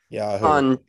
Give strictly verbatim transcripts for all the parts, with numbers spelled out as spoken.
Yahoo. On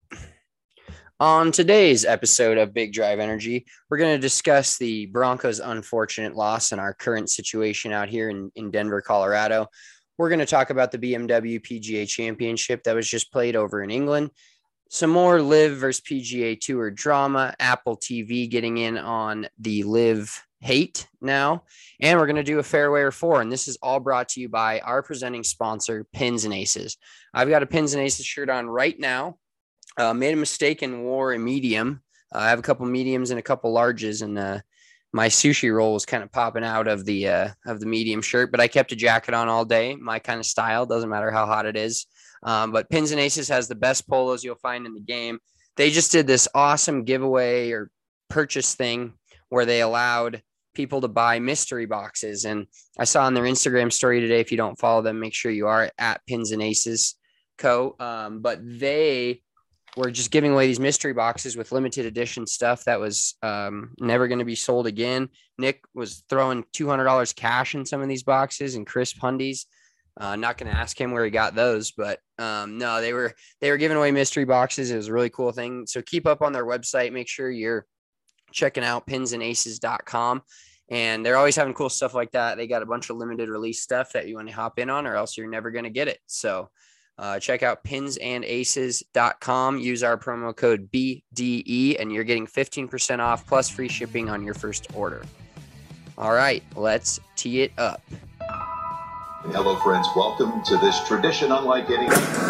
on today's episode of Big Drive Energy, we're going to discuss the Broncos' unfortunate loss and our current situation out here in, in Denver, Colorado. We're going to talk about the B M W P G A Championship that was just played over in England. Some more Live versus P G A Tour drama. Apple T V getting in on the Live hate now. And we're going to do a fairway or four. And this is all brought to you by our presenting sponsor, Pins and Aces. I've got a Pins and Aces shirt on right now. Uh, made a mistake and wore a medium. Uh, I have a couple mediums and a couple larges, and uh, my sushi roll was kind of popping out of the uh, of the medium shirt. But I kept a jacket on all day. My kind of style, doesn't matter how hot it is. Um, but Pins and Aces has the best polos you'll find in the game. They just did this awesome giveaway or purchase thing where they allowed people to buy mystery boxes. And I saw on their Instagram story today, if you don't follow them, make sure you are at Pins and Aces Co. Um, but they were just giving away these mystery boxes with limited edition stuff that was um, never going to be sold again. Nick was throwing two hundred dollars cash in some of these boxes and crisp hundies. Uh, not going to ask him where he got those, but um, no, they were they were giving away mystery boxes. It was a really cool thing. So keep up on their website. Make sure you're checking out pins and aces dot com. And they're always having cool stuff like that. They got a bunch of limited release stuff that you want to hop in on, or else you're never going to get it. So uh, check out pins and aces dot com. Use our promo code B D E, and you're getting fifteen percent off plus free shipping on your first order. All right, let's tee it up. Hello, friends. Welcome to this tradition unlike any.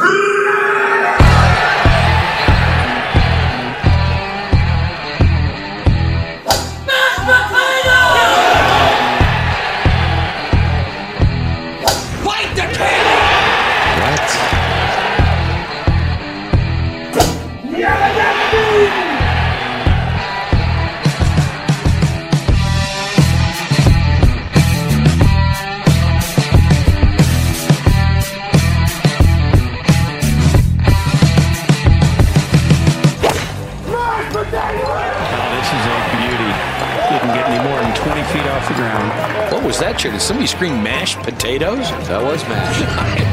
What was that, chair? Did somebody scream mashed potatoes? That was mashed.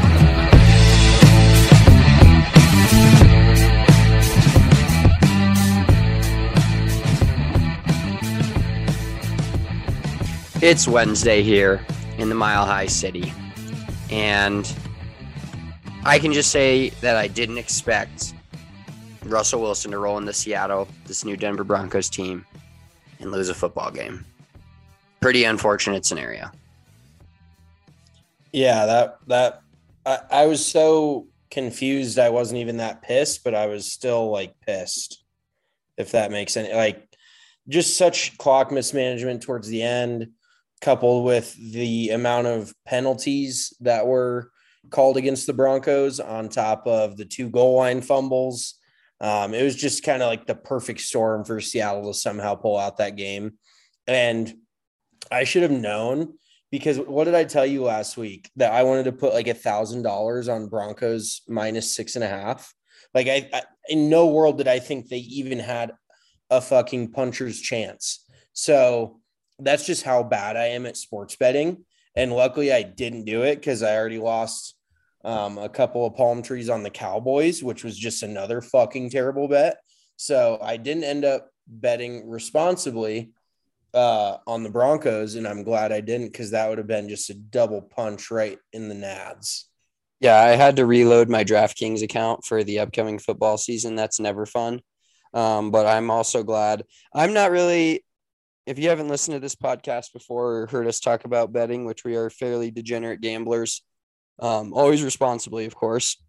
It's Wednesday here in the Mile High City, and I can just say that I didn't expect Russell Wilson to roll into Seattle, this new Denver Broncos team, and lose a football game. Pretty unfortunate scenario. Yeah, that that I, I was so confused. I wasn't even that pissed, but I was still like pissed, if that makes any like just such clock mismanagement towards the end, coupled with the amount of penalties that were called against the Broncos on top of the two goal line fumbles. Um, it was just kind of like the perfect storm for Seattle to somehow pull out that game. And I should have known, because what did I tell you last week? That I wanted to put like a thousand dollars on Broncos minus six and a half. Like I, I, in no world did I think they even had a fucking puncher's chance. So that's just how bad I am at sports betting. And luckily I didn't do it, because I already lost um, a couple of palm trees on the Cowboys, which was just another fucking terrible bet. So I didn't end up betting responsibly uh on the Broncos, and I'm glad I didn't, because that would have been just a double punch right in the nads. Yeah, I had to reload my DraftKings account for the upcoming football season. That's never fun. Um, but I'm also glad. I'm not really, if you haven't listened to this podcast before or heard us talk about betting, which we are fairly degenerate gamblers, um, always responsibly, of course.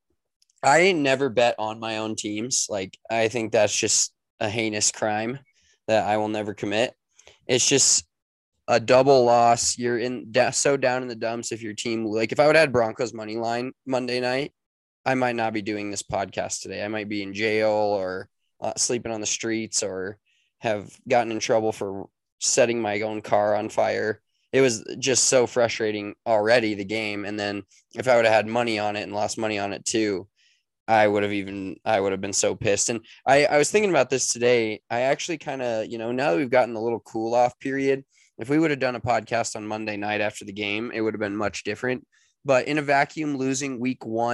I never bet on my own teams. Like, I think that's just a heinous crime that I will never commit. It's just a double loss. You're in so down in the dumps if your team, like if I would have had Broncos money line Monday night, I might not be doing this podcast today. I might be in jail or uh, sleeping on the streets, or have gotten in trouble for setting my own car on fire. It was just so frustrating already, the game. And then if I would have had money on it and lost money on it too, I would have even, I would have been so pissed. And I, I was thinking about this today. I actually kind of, you know, now that we've gotten a little cool off period, if we would have done a podcast on Monday night after the game, it would have been much different. But in a vacuum, losing week one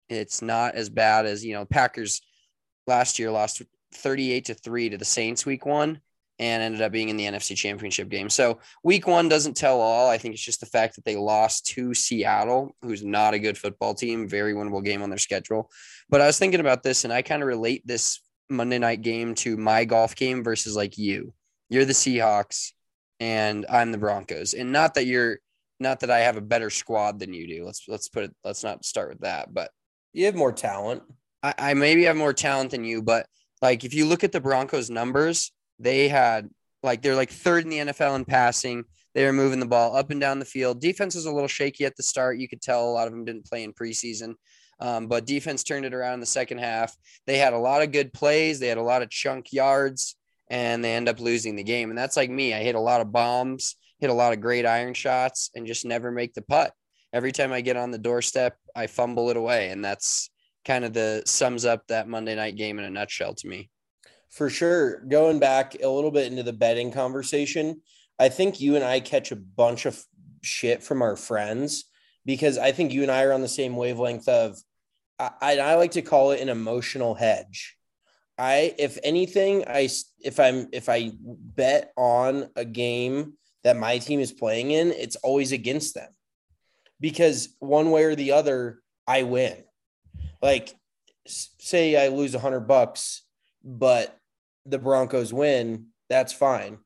It's not as bad as, you know, Packers last year lost thirty-eight to three to the Saints week one and ended up being in the N F C Championship game. So week one doesn't tell all. I think it's just the fact that they lost to Seattle, who's not a good football team, very winnable game on their schedule. But I was thinking about this, and I kind of relate this Monday night game to my golf game versus like you. You're the Seahawks and I'm the Broncos. And not that you're not that I have a better squad than you do. Let's let's put it let's not start with that. But You have more talent. I, I maybe have more talent than you, but like if you look at the Broncos numbers, they had like they're like third in the N F L in passing. They were moving the ball up and down the field. Defense was a little shaky at the start. You could tell a lot of them didn't play in preseason. Um, but defense turned it around in the second half. They had a lot of good plays. They had a lot of chunk yards, and they end up losing the game. And that's like me. I hit a lot of bombs, hit a lot of great iron shots, and just never make the putt. Every time I get on the doorstep, I fumble it away. And that's kind of the sums up that Monday night game in a nutshell to me. For sure. Going back a little bit into the betting conversation, I think you and I catch a bunch of shit from our friends because I think you and I are on the same wavelength of, I, I like to call it an emotional hedge. I, if anything, I, if I'm, if I bet on a game that my team is playing in, it's always against them because one way or the other, I win. Like say I lose a hundred bucks, but the Broncos win, that's fine.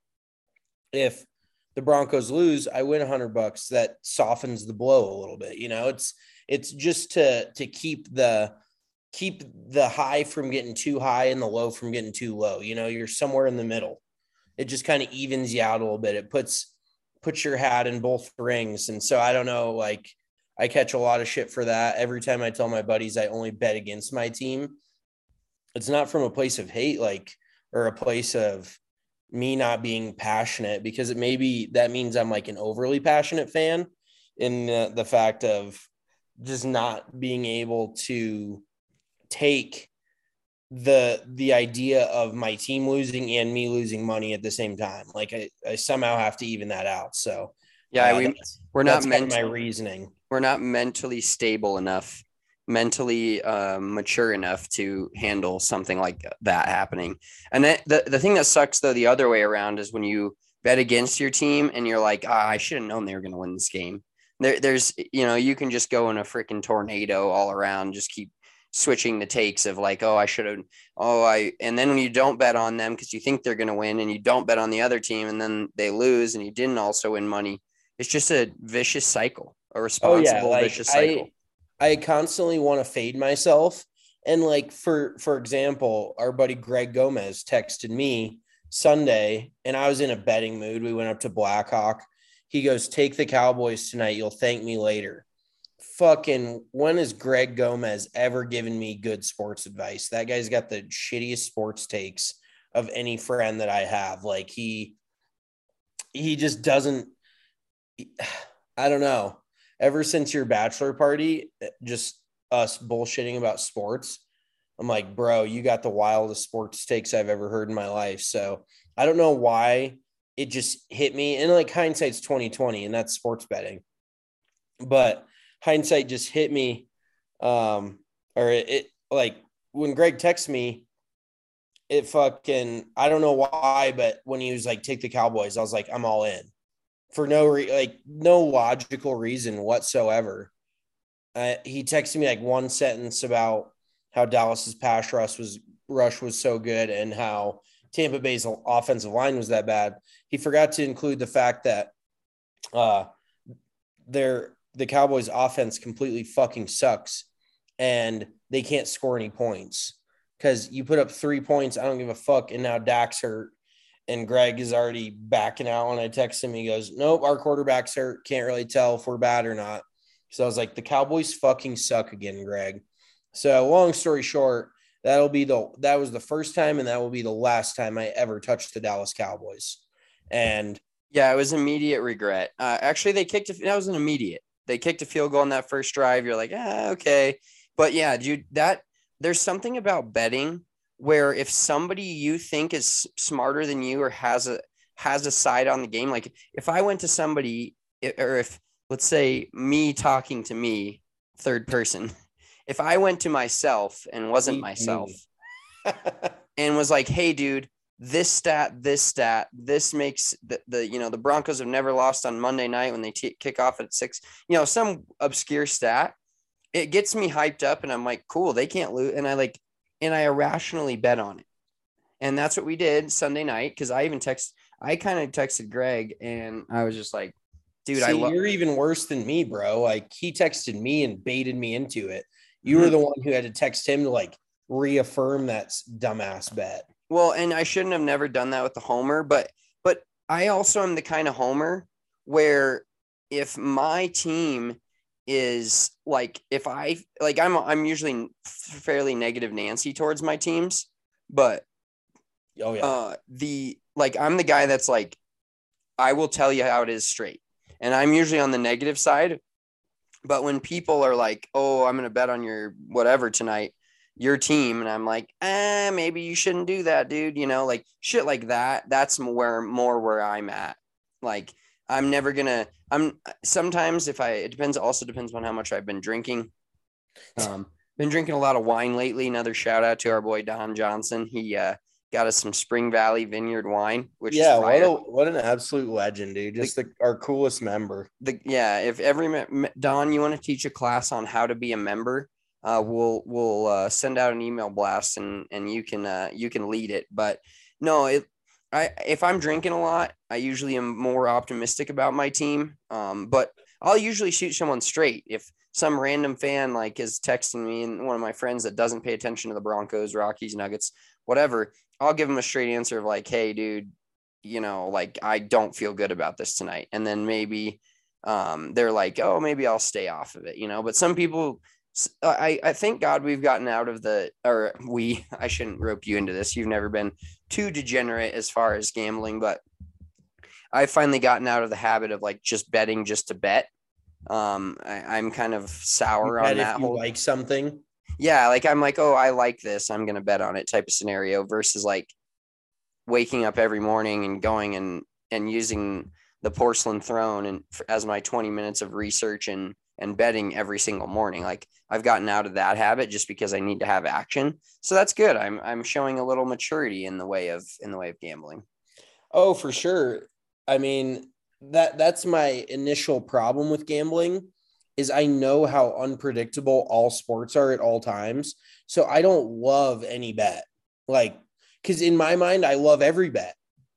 If the Broncos lose, I win a hundred bucks. That softens the blow a little bit. You know, it's, it's just to, to keep the, keep the high from getting too high and the low from getting too low. You know, you're somewhere in the middle. It just kind of evens you out a little bit. It puts, puts your hat in both rings. And so I don't know, like I catch a lot of shit for that. Every time I tell my buddies I only bet against my team, it's not from a place of hate, like, or a place of me not being passionate, because it maybe that means I'm like an overly passionate fan in the, the fact of just not being able to take the, the idea of my team losing and me losing money at the same time. Like I, I somehow have to even that out. So yeah, uh, we, that's, we're that's not kind of meant my reasoning. We're not mentally stable enough, mentally um, mature enough to handle something like that happening. And that, the, the thing that sucks, though, the other way around is when you bet against your team and you're like, ah, I should have known they were going to win this game. There, there's, you know, you can just go in a freaking tornado all around, just keep switching the takes of like, oh, I should have, oh, I, and then when you don't bet on them because you think they're going to win and you don't bet on the other team and then they lose and you didn't also win money, it's just a vicious cycle. A responsible, oh, yeah, like, vicious cycle. I, I constantly want to fade myself. And like, for, for example, our buddy Greg Gomez texted me Sunday and I was in a betting mood. We went up to Blackhawk. He goes, take the Cowboys tonight. You'll thank me later. Fucking, when has Greg Gomez ever given me good sports advice? That guy's got the shittiest sports takes of any friend that I have. Like he, he just doesn't, I don't know. Ever since your bachelor party, just us bullshitting about sports, I'm like, bro, you got the wildest sports takes I've ever heard in my life. So I don't know why it just hit me. And like hindsight's twenty twenty, and that's sports betting. But hindsight just hit me. Um, or it, it like when Greg texted me, it fucking, I don't know why, but when he was like, take the Cowboys, I was like, I'm all in. For no re- like no logical reason whatsoever. Uh, he texted me like one sentence about how Dallas's pass rush was rush was so good and how Tampa Bay's offensive line was that bad. He forgot to include the fact that uh, their the Cowboys' offense completely fucking sucks and they can't score any points because you put up three points. I don't give a fuck, and now Dak's hurt. And Greg is already backing out. When I text him, he goes, nope, our quarterback's hurt. Can't really tell if we're bad or not. So I was like, the Cowboys fucking suck again, Greg. So long story short, that'll be the, that was the first time and that will be the last time I ever touched the Dallas Cowboys. And yeah, it was immediate regret. Uh, actually, they kicked, a, that was an immediate. They kicked a field goal on that first drive. You're like, ah, okay. But yeah, dude, that there's something about betting where if somebody you think is smarter than you or has a has a side on the game, like if I went to somebody, or if let's say me talking to me, third person, if I went to myself and wasn't Me myself too. and was like, hey, dude, this stat, this stat, this makes the, the you know, the Broncos have never lost on Monday night when they t- kick off at six, you know, some obscure stat, it gets me hyped up and I'm like, cool, they can't lose. And I like, and I irrationally bet on it. And that's what we did Sunday night. Cause I even text, I kind of texted Greg and I was just like, dude, See, I love, you're even worse than me, bro. Like he texted me and baited me into it. You Mhm. were the one who had to text him to like reaffirm that dumbass bet. well, and I shouldn't have never done that with the homer, but, but I also am the kind of homer where if my team is like, if I like, I'm, I'm usually fairly negative Nancy towards my teams, but Oh yeah. uh, the, like, I'm the guy that's like, I will tell you how it is straight. And I'm usually on the negative side. But when people are like, oh, I'm going to bet on your whatever tonight, your team. And I'm like, eh, maybe you shouldn't do that, dude. You know, like shit like that. That's where more where I'm at. Like, I'm never going to, I'm sometimes if I, it depends, also depends on how much I've been drinking. Um, been drinking a lot of wine lately. Another shout out to our boy, Don Johnson. He, uh, got us some Spring Valley Vineyard wine, which yeah, is what fire. a what an absolute legend, dude. Just the, our coolest member. The yeah, if every me- Don, you want to teach a class on how to be a member, uh, we'll we'll uh, send out an email blast and and you can uh, you can lead it. But no, it I if I'm drinking a lot, I usually am more optimistic about my team. Um, but I'll usually shoot someone straight if some random fan like is texting me and one of my friends that doesn't pay attention to the Broncos, Rockies, Nuggets, whatever. I'll give them a straight answer of like, hey, dude, you know, like I don't feel good about this tonight. And then maybe um, they're like, oh, maybe I'll stay off of it, you know, but some people, I, I thank God we've gotten out of the, or we, I shouldn't rope you into this. You've never been too degenerate as far as gambling, but I've finally gotten out of the habit of like just betting just to bet. Um, I, I'm kind of sour on that if you whole, like something. yeah, like I'm like, oh, I like this, I'm gonna bet on it type of scenario versus like waking up every morning and going and and using the porcelain throne and as my twenty minutes of research and and betting every single morning. Like I've gotten out of that habit just because I need to have action. So that's good. I'm I'm showing a little maturity in the way of in the way of gambling. Oh, for sure. I mean, that that's my initial problem with gambling is I know how unpredictable all sports are at all times. So I don't love any bet. Like, because in my mind, I love every bet.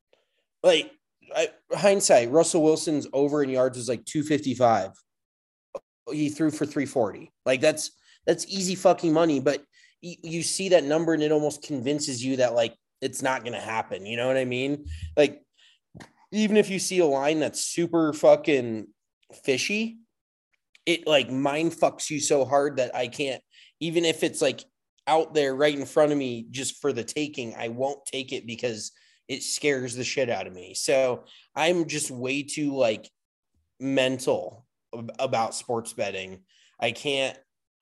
Like, I, hindsight, Russell Wilson's over in yards was like two fifty-five. He threw for three forty. Like, that's that's easy fucking money. But you, you see that number and it almost convinces you that, like, it's not going to happen. You know what I mean? Like, even if you see a line that's super fucking fishy, it like mind fucks you so hard that I can't, even if it's like out there right in front of me just for the taking, I won't take it because it scares the shit out of me. So I'm just way too like mental about sports betting. I can't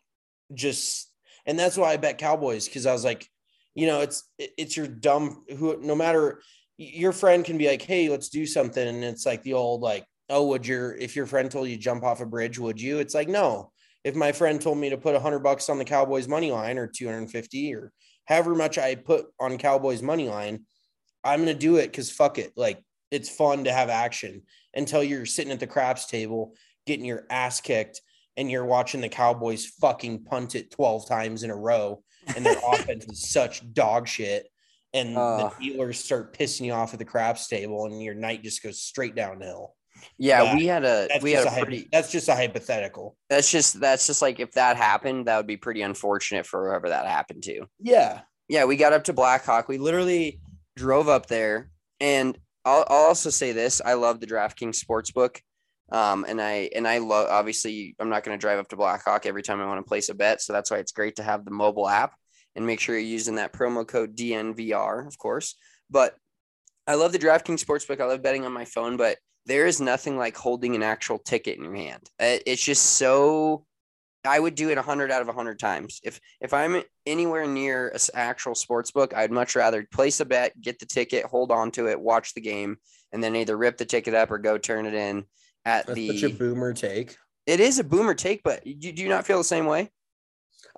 just, and that's why I bet Cowboys. Cause I was like, you know, it's, it's your dumb who, no matter your friend can be like, hey, let's do something. And it's like the old, like, oh, would your, if your friend told you to jump off a bridge, would you? It's like, no. If my friend told me to put a hundred bucks on the Cowboys money line or two hundred fifty or however much I put on Cowboys money line, I'm going to do it. Cause fuck it. Like it's fun to have action until you're sitting at the craps table, getting your ass kicked and you're watching the Cowboys fucking punt it twelve times in a row. And their offense is such dog shit. And Uh, the dealers start pissing you off at the craps table and your night just goes straight downhill. yeah, But we had a that's we had just a a pretty hypo- that's just a hypothetical. that's just that's just like if that happened, that would be pretty unfortunate for whoever that happened to. Yeah. Yeah, we got up to Blackhawk. We literally drove up there, and I'll, I'll also say this: I love the DraftKings Sportsbook, um, and I and I love. Obviously, I'm not going to drive up to Blackhawk every time I want to place a bet, so that's why it's great to have the mobile app and make sure you're using that promo code D N V R, of course. But I love the DraftKings Sportsbook. I love betting on my phone, but there is nothing like holding an actual ticket in your hand. It's just so. I would do it one hundred out of one hundred times. If if I'm anywhere near an actual sports book, I'd much rather place a bet, get the ticket, hold on to it, watch the game, and then either rip the ticket up or go turn it in at That's the such a boomer take. It is a boomer take, but you, do you not feel the same way?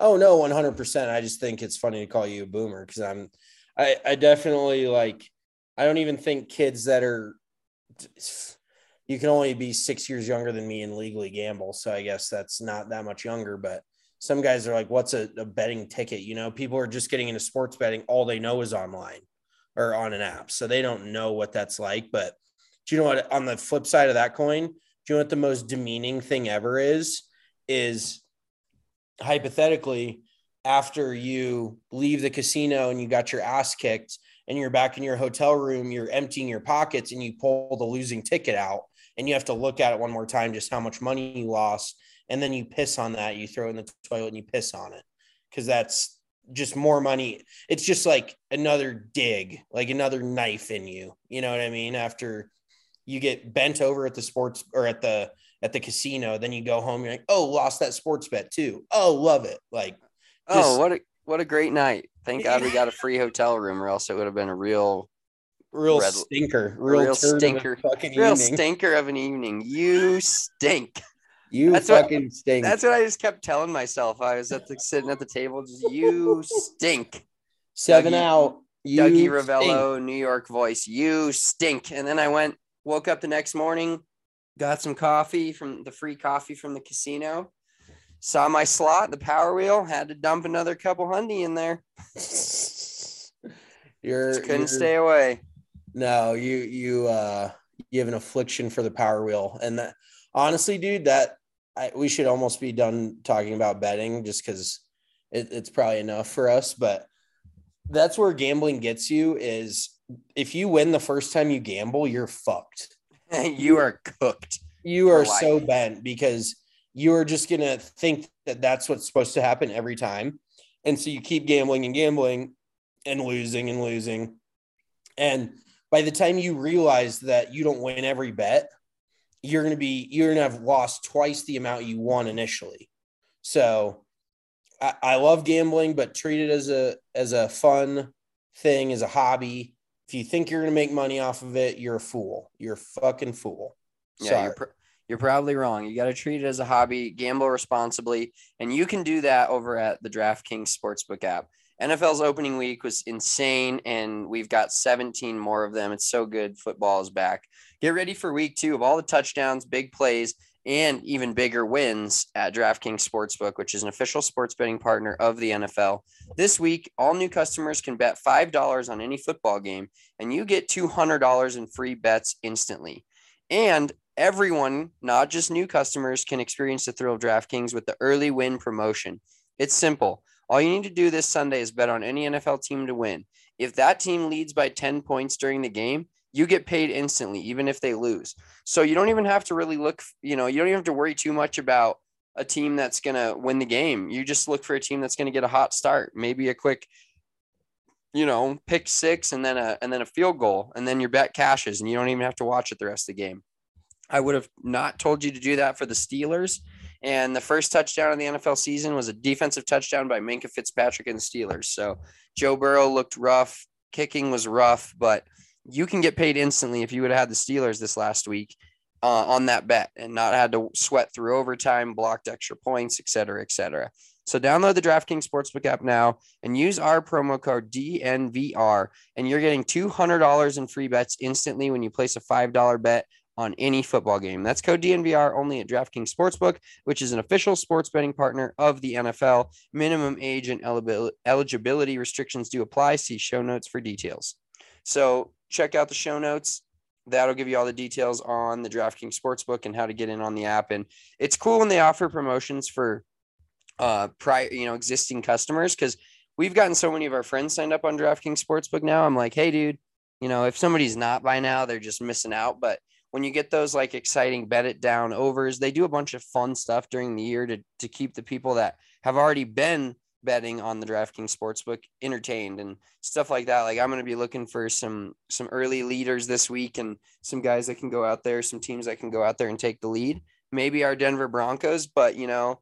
Oh no, one hundred percent. I just think it's funny to call you a boomer because I'm, I, I definitely like, I don't even think kids that are, you can only be six years younger than me and legally gamble. So I guess that's not that much younger, but some guys are like, what's a, a betting ticket? You know, people are just getting into sports betting. All they know is online or on an app. So they don't know what that's like. But do you know what, on the flip side of that coin, do you know what the most demeaning thing ever is, is hypothetically, after you leave the casino and you got your ass kicked and you're back in your hotel room, you're emptying your pockets and you pull the losing ticket out and you have to look at it one more time, just how much money you lost. And then you piss on that, you throw it in the toilet and you piss on it. Cause that's just more money. It's just like another dig, like another knife in you. You know what I mean? After you get bent over at the sports or at the, at the casino, then you go home, you're like, oh, lost that sports bet too. Oh, love it. Like, Just, oh, what a what a great night! Thank God we got a free hotel room, or else it would have been a real, real red, stinker, real, real stinker, fucking real evening. stinker of an evening. You stink. You that's fucking what, stink. That's what I just kept telling myself. I was at the sitting at the table, just you stink. Seven Dougie, out. You Dougie Ravello, stink. New York voice. You stink. And then I went, woke up the next morning, got some coffee from the free coffee from the casino. Saw my slot, the Power Wheel, had to dump another couple hundy in there. You're Just couldn't you're, stay away. No, you you uh you have an affliction for the Power Wheel, and that honestly, dude, that I, we should almost be done talking about betting just because it, it's probably enough for us. But that's where gambling gets you. Is if you win the first time you gamble, you're fucked. You are cooked. You are so bent because you're just going to think that that's what's supposed to happen every time. And so you keep gambling and gambling and losing and losing. And by the time you realize that you don't win every bet, you're going to be, you're going to have lost twice the amount you won initially. So I, I love gambling, but treat it as a, as a fun thing, as a hobby. If you think you're going to make money off of it, you're a fool. You're a fucking fool. Yeah. Sorry. You're pr- You're probably wrong. You got to treat it as a hobby, gamble responsibly, and you can do that over at the DraftKings Sportsbook app. N F L's opening week was insane, and we've got seventeen more of them. It's so good. Football is back. Get ready for week two of all the touchdowns, big plays, and even bigger wins at DraftKings Sportsbook, which is an official sports betting partner of the N F L. This week, all new customers can bet five dollars on any football game, and you get two hundred dollars in free bets instantly. And everyone, not just new customers, can experience the thrill of DraftKings with the early win promotion. It's simple. All you need to do this Sunday is bet on any N F L team to win. If that team leads by ten points during the game, you get paid instantly, even if they lose. So you don't even have to really look, you know, you don't even have to worry too much about a team that's going to win the game. You just look for a team that's going to get a hot start, maybe a quick, you know, pick six and then a, and then a field goal, and then your bet cashes and you don't even have to watch it the rest of the game. I would have not told you to do that for the Steelers. And the first touchdown of the N F L season was a defensive touchdown by Minkah Fitzpatrick and the Steelers. So Joe Burrow looked rough. Kicking was rough, but you can get paid instantly if you would have had the Steelers this last week uh, on that bet and not had to sweat through overtime, blocked extra points, et cetera, et cetera. So download the DraftKings Sportsbook app now and use our promo code D N V R, and you're getting two hundred dollars in free bets instantly when you place a five dollars bet on any football game. That's code D N V R only at DraftKings Sportsbook, which is an official sports betting partner of the N F L. Minimum age and eligibility restrictions do apply. See show notes for details. So check out the show notes. That'll give you all the details on the DraftKings Sportsbook and how to get in on the app. And it's cool when they offer promotions for uh prior, you know, existing customers, because we've gotten so many of our friends signed up on DraftKings Sportsbook now. I'm like, hey, dude, you know, if somebody's not by now, they're just missing out. But when you get those like exciting bet it down overs, they do a bunch of fun stuff during the year to to keep the people that have already been betting on the DraftKings Sportsbook entertained and stuff like that. Like I'm going to be looking for some some early leaders this week and some guys that can go out there, some teams that can go out there and take the lead. Maybe our Denver Broncos, but you know,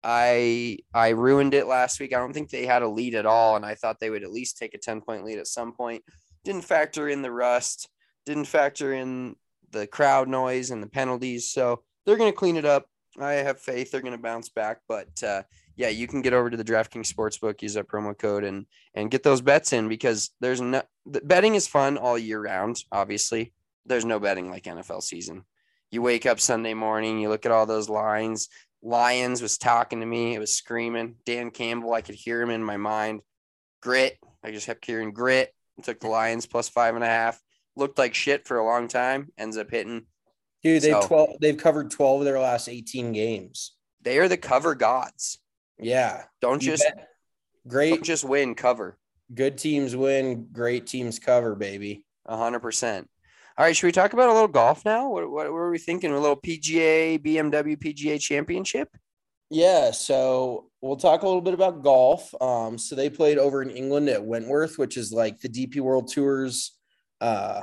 I I ruined it last week. I don't think they had a lead at all, and I thought they would at least take a ten-point lead at some point. Didn't factor in the rust, didn't factor in the crowd noise and the penalties, so they're going to clean it up. I have faith they're going to bounce back, but uh, yeah, you can get over to the DraftKings Sportsbook, use that promo code, and and get those bets in, because there's no the betting is fun all year round. Obviously, there's no betting like N F L season. You wake up Sunday morning, you look at all those lines. Lions was talking to me. It was screaming. Dan Campbell, I could hear him in my mind. Grit. I just kept hearing grit. Took the Lions plus five and a half. Looked like shit for a long time. Ends up hitting. Dude, they've So- twelve. They've covered twelve of their last eighteen games. They are the cover gods. Yeah, Don't you just bet. Great. don't just win, cover. Good teams win. Great teams cover, baby. A hundred percent. All right, should we talk about a little golf now? What, what, what were we thinking? A little P G A, B M W P G A Championship? Yeah, so we'll talk a little bit about golf. Um, so they played over in England at Wentworth, which is like the D P World Tour's uh,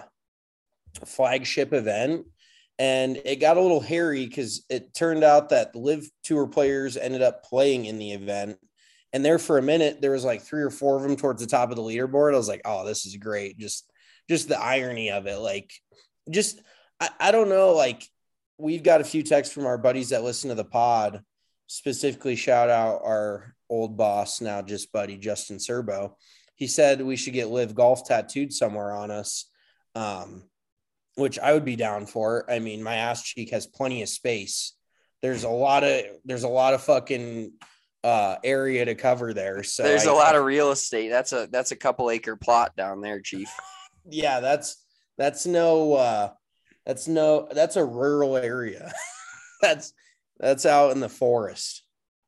flagship event. And it got a little hairy because it turned out that the Live Tour players ended up playing in the event. And there for a minute, there was like three or four of them towards the top of the leaderboard. I was like, oh, this is great. Just, just the irony of it. Like, just, I, I don't know. Like, we've got a few texts from our buddies that listen to the pod. Specifically, shout out our old boss, now just buddy, Justin Serbo. He said we should get Live Golf tattooed somewhere on us, um, which I would be down for. I mean, my ass cheek has plenty of space. There's a lot of there's a lot of fucking uh, area to cover there. So There's I, a lot of real estate. That's a that's a couple acre plot down there, Chief. yeah. That's that's no uh, that's no that's a rural area. that's That's out in the forest.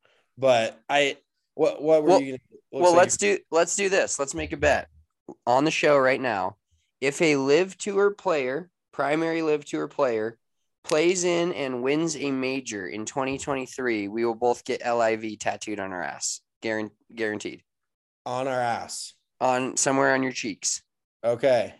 But I, what, what were well, you? Gonna, well, let's do, let's do this. Let's make a bet on the show right now. If a Live Tour player, primary Live Tour player, plays in and wins a major in twenty twenty-three, we will both get L I V tattooed on our ass. Guaranteed. Guaranteed. On our ass. On somewhere on your cheeks. Okay.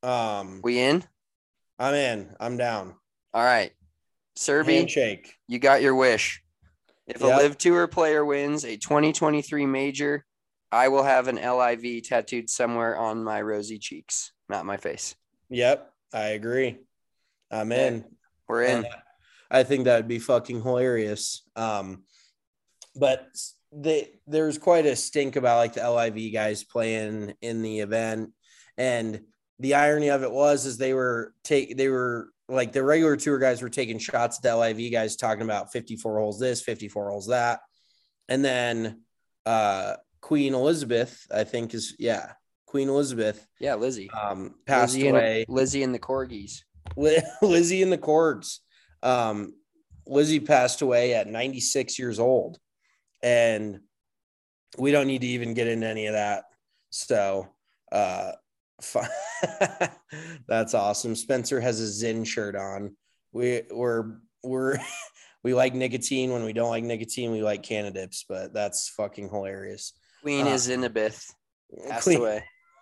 Um, we in? I'm in. I'm down. All right. Serby, handshake. You got your wish. If Yep. a Live Tour player wins a twenty twenty-three major, I will have an L I V tattooed somewhere on my rosy cheeks, not my face. Yep. I agree. I'm in. We're in. And I think that would be fucking hilarious. Um, but they, there's quite a stink about like the L I V guys playing in the event. And the irony of it was, is they were take, they were, like the regular tour guys were taking shots at the L I V guys, talking about fifty-four holes this, fifty-four holes that. And then uh, Queen Elizabeth, I think is, yeah, Queen Elizabeth. Yeah, Lizzie. Um, passed Lizzie away. And, Lizzie and the Corgis. Lizzie and the Corgs. Um, Lizzie passed away at ninety-six years old. And we don't need to even get into any of that. So, uh, that's awesome. Spencer has a Zyn shirt on. We we're we're we like nicotine. When we don't like nicotine, we like Canadips, but that's fucking hilarious. Queen uh, is Elizabeth passed Queen, away.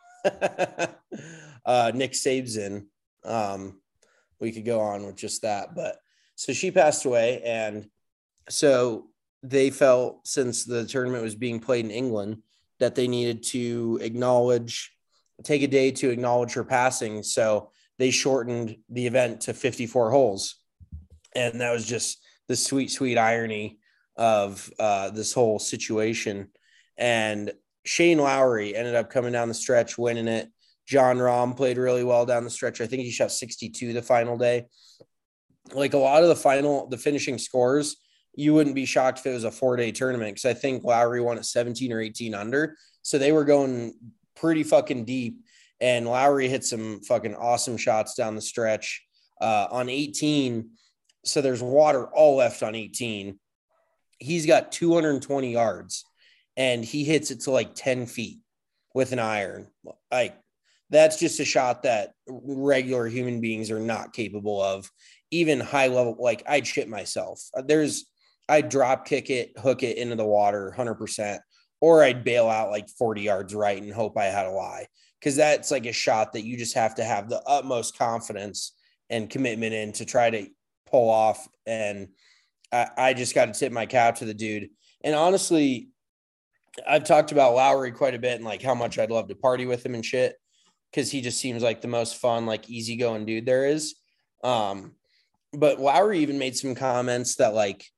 uh, Nick Sabesin. Um, we could go on with just that, but so she passed away, and so they felt, since the tournament was being played in England, that they needed to acknowledge. take a day to acknowledge her passing. So they shortened the event to fifty-four holes. And that was just the sweet, sweet irony of uh, this whole situation. And Shane Lowry ended up coming down the stretch, winning it. John Rahm played really well down the stretch. I think he shot sixty-two the final day. Like a lot of the final, the finishing scores, you wouldn't be shocked if it was a four-day tournament, because I think Lowry won at seventeen or eighteen under. So they were going pretty fucking deep, and Lowry hit some fucking awesome shots down the stretch uh, on eighteen. So there's water all left on eighteen. He's got two hundred twenty yards, and he hits it to like ten feet with an iron. Like, that's just a shot that regular human beings are not capable of. Even high level, like I'd shit myself. There's, I'd drop kick it, hook it into the water one hundred percent. Or I'd bail out like forty yards right and hope I had a lie. Because that's like a shot that you just have to have the utmost confidence and commitment in to try to pull off. And I, I just got to tip my cap to the dude. And honestly, I've talked about Lowry quite a bit and like how much I'd love to party with him and shit, because he just seems like the most fun, like easygoing dude there is. Um, but Lowry even made some comments that like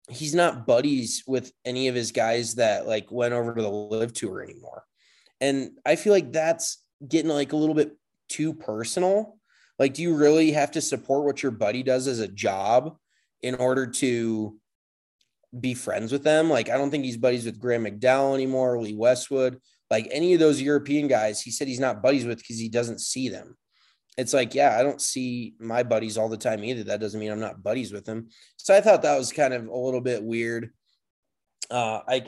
he's not buddies with any of his guys that like went over to the Live Tour anymore. And I feel like that's getting like a little bit too personal. Like, do you really have to support what your buddy does as a job in order to be friends with them? Like, I don't think he's buddies with Graham McDowell anymore, Lee Westwood, like any of those European guys. He said he's not buddies with because he doesn't see them. It's like, yeah, I don't see my buddies all the time either. That doesn't mean I'm not buddies with them. So I thought that was kind of a little bit weird. Uh, I,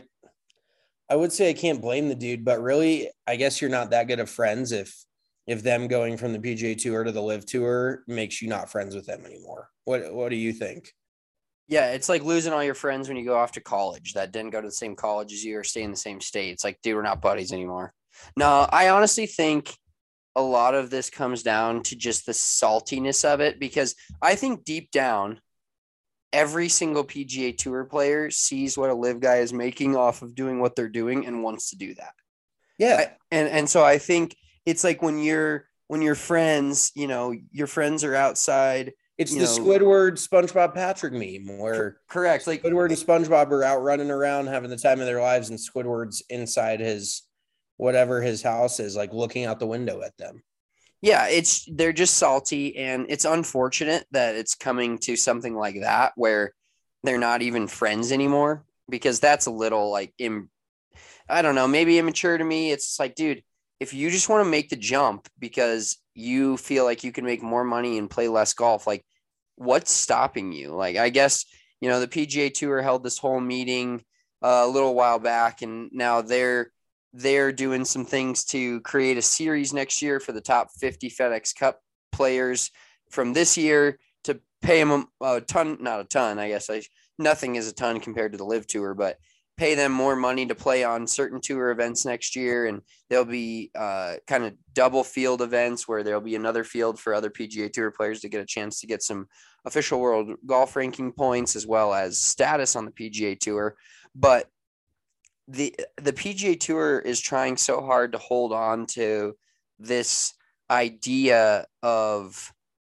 I would say I can't blame the dude, but really, I guess you're not that good of friends if, if them going from the P G A Tour to the Live Tour makes you not friends with them anymore. What, what do you think? Yeah, it's like losing all your friends when you go off to college that didn't go to the same college as you or stay in the same state. It's like, dude, we're not buddies anymore. No, I honestly think a lot of this comes down to just the saltiness of it, because I think deep down, every single P G A Tour player sees what a Live guy is making off of doing what they're doing and wants to do that. Yeah. I, and, and so I think it's like when you're, when your friends, you know, your friends are outside. It's the know, Squidward SpongeBob Patrick meme where correct. Like Squidward and SpongeBob are out running around having the time of their lives, and Squidward's inside his whatever his house is, like looking out the window at them. Yeah, it's they're just salty, and it's unfortunate that it's coming to something like that where they're not even friends anymore, because that's a little like Im- I don't know, maybe immature to me. It's like, dude, if you just want to make the jump because you feel like you can make more money and play less golf, like what's stopping you? Like, I guess, you know, the P G A Tour held this whole meeting uh, a little while back, and now they're they're doing some things to create a series next year for the top fifty FedEx Cup players from this year to pay them a, a ton, not a ton, I guess I, nothing is a ton compared to the Live Tour, but pay them more money to play on certain tour events next year. And there'll be uh, kind of double field events where there'll be another field for other P G A Tour players to get a chance to get some official world golf ranking points as well as status on the P G A Tour. But the the P G A Tour is trying so hard to hold on to this idea of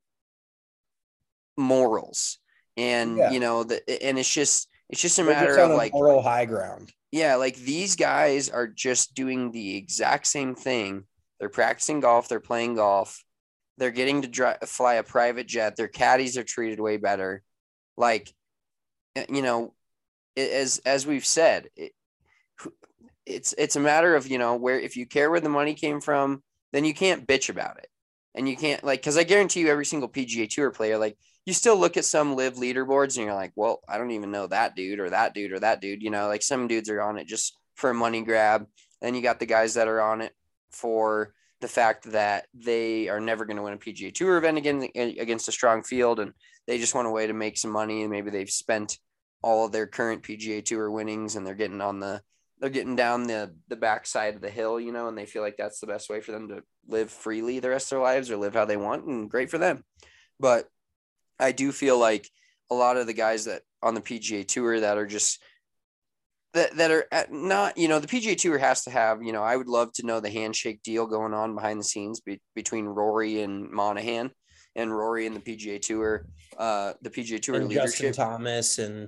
morals, and yeah. you know, the, and it's just it's just a They're matter just of like moral high ground. Yeah, like these guys are just doing the exact same thing. They're practicing golf. They're playing golf. They're getting to dry, fly a private jet. Their caddies are treated way better. Like, you know, as as we've said. It, It's it's a matter of, you know, where if you care where the money came from, then you can't bitch about it. And you can't like, because I guarantee you every single P G A Tour player, like you still look at some Live leaderboards and you're like, well, I don't even know that dude or that dude or that dude. You know, like some dudes are on it just for a money grab. Then you got the guys that are on it for the fact that they are never going to win a P G A Tour event again against a strong field. And they just want a way to make some money. And maybe they've spent all of their current P G A Tour winnings and they're getting on the they're getting down the, the backside of the hill, you know, and they feel like that's the best way for them to live freely the rest of their lives or live how they want, and great for them. But I do feel like a lot of the guys that on the P G A Tour that are just that, that are at not, you know, the P G A Tour has to have, you know, I would love to know the handshake deal going on behind the scenes be, between Rory and Monahan and Rory and the P G A Tour, uh, the P G A Tour and leadership. Justin Thomas and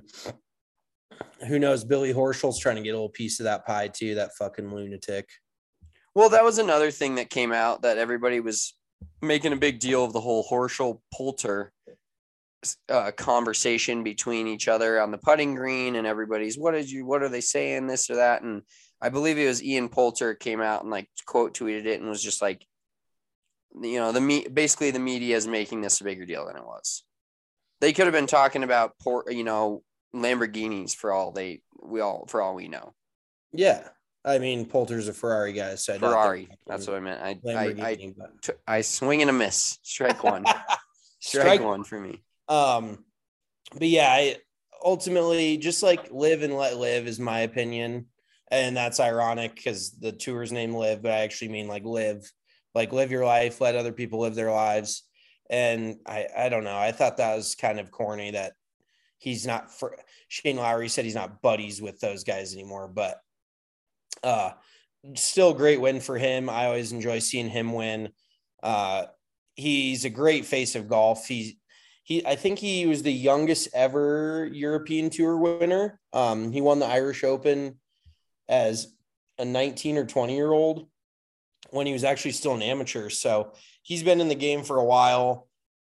who knows, Billy Horschel's trying to get a little piece of that pie too, that fucking lunatic. Well, that was another thing that came out that everybody was making a big deal of, the whole Horschel Poulter uh, conversation between each other on the putting green, and everybody's, what did you, what are they saying, this or that? And I believe it was Ian Poulter came out and like quote tweeted it and was just like, you know, the me basically the media is making this a bigger deal than it was. They could have been talking about port, you know, Lamborghinis for all they we all for all we know. Yeah, I mean Poulter's a Ferrari guy, so I Ferrari. That's what I meant. I I I, but... I swing and a miss. Strike one. Strike, Strike one for me. Um, but yeah, I ultimately just like live and let live is my opinion, and that's ironic because the tour's name Live, but I actually mean like live, like live your life, let other people live their lives. And I I don't know. I thought that was kind of corny that. He's not for Shane Lowry said he's not buddies with those guys anymore, but uh, still a great win for him. I always enjoy seeing him win. Uh, he's a great face of golf. He's, he I think he was the youngest ever European Tour winner. Um, he won the Irish Open as a nineteen or twenty year old when he was actually still an amateur. So he's been in the game for a while.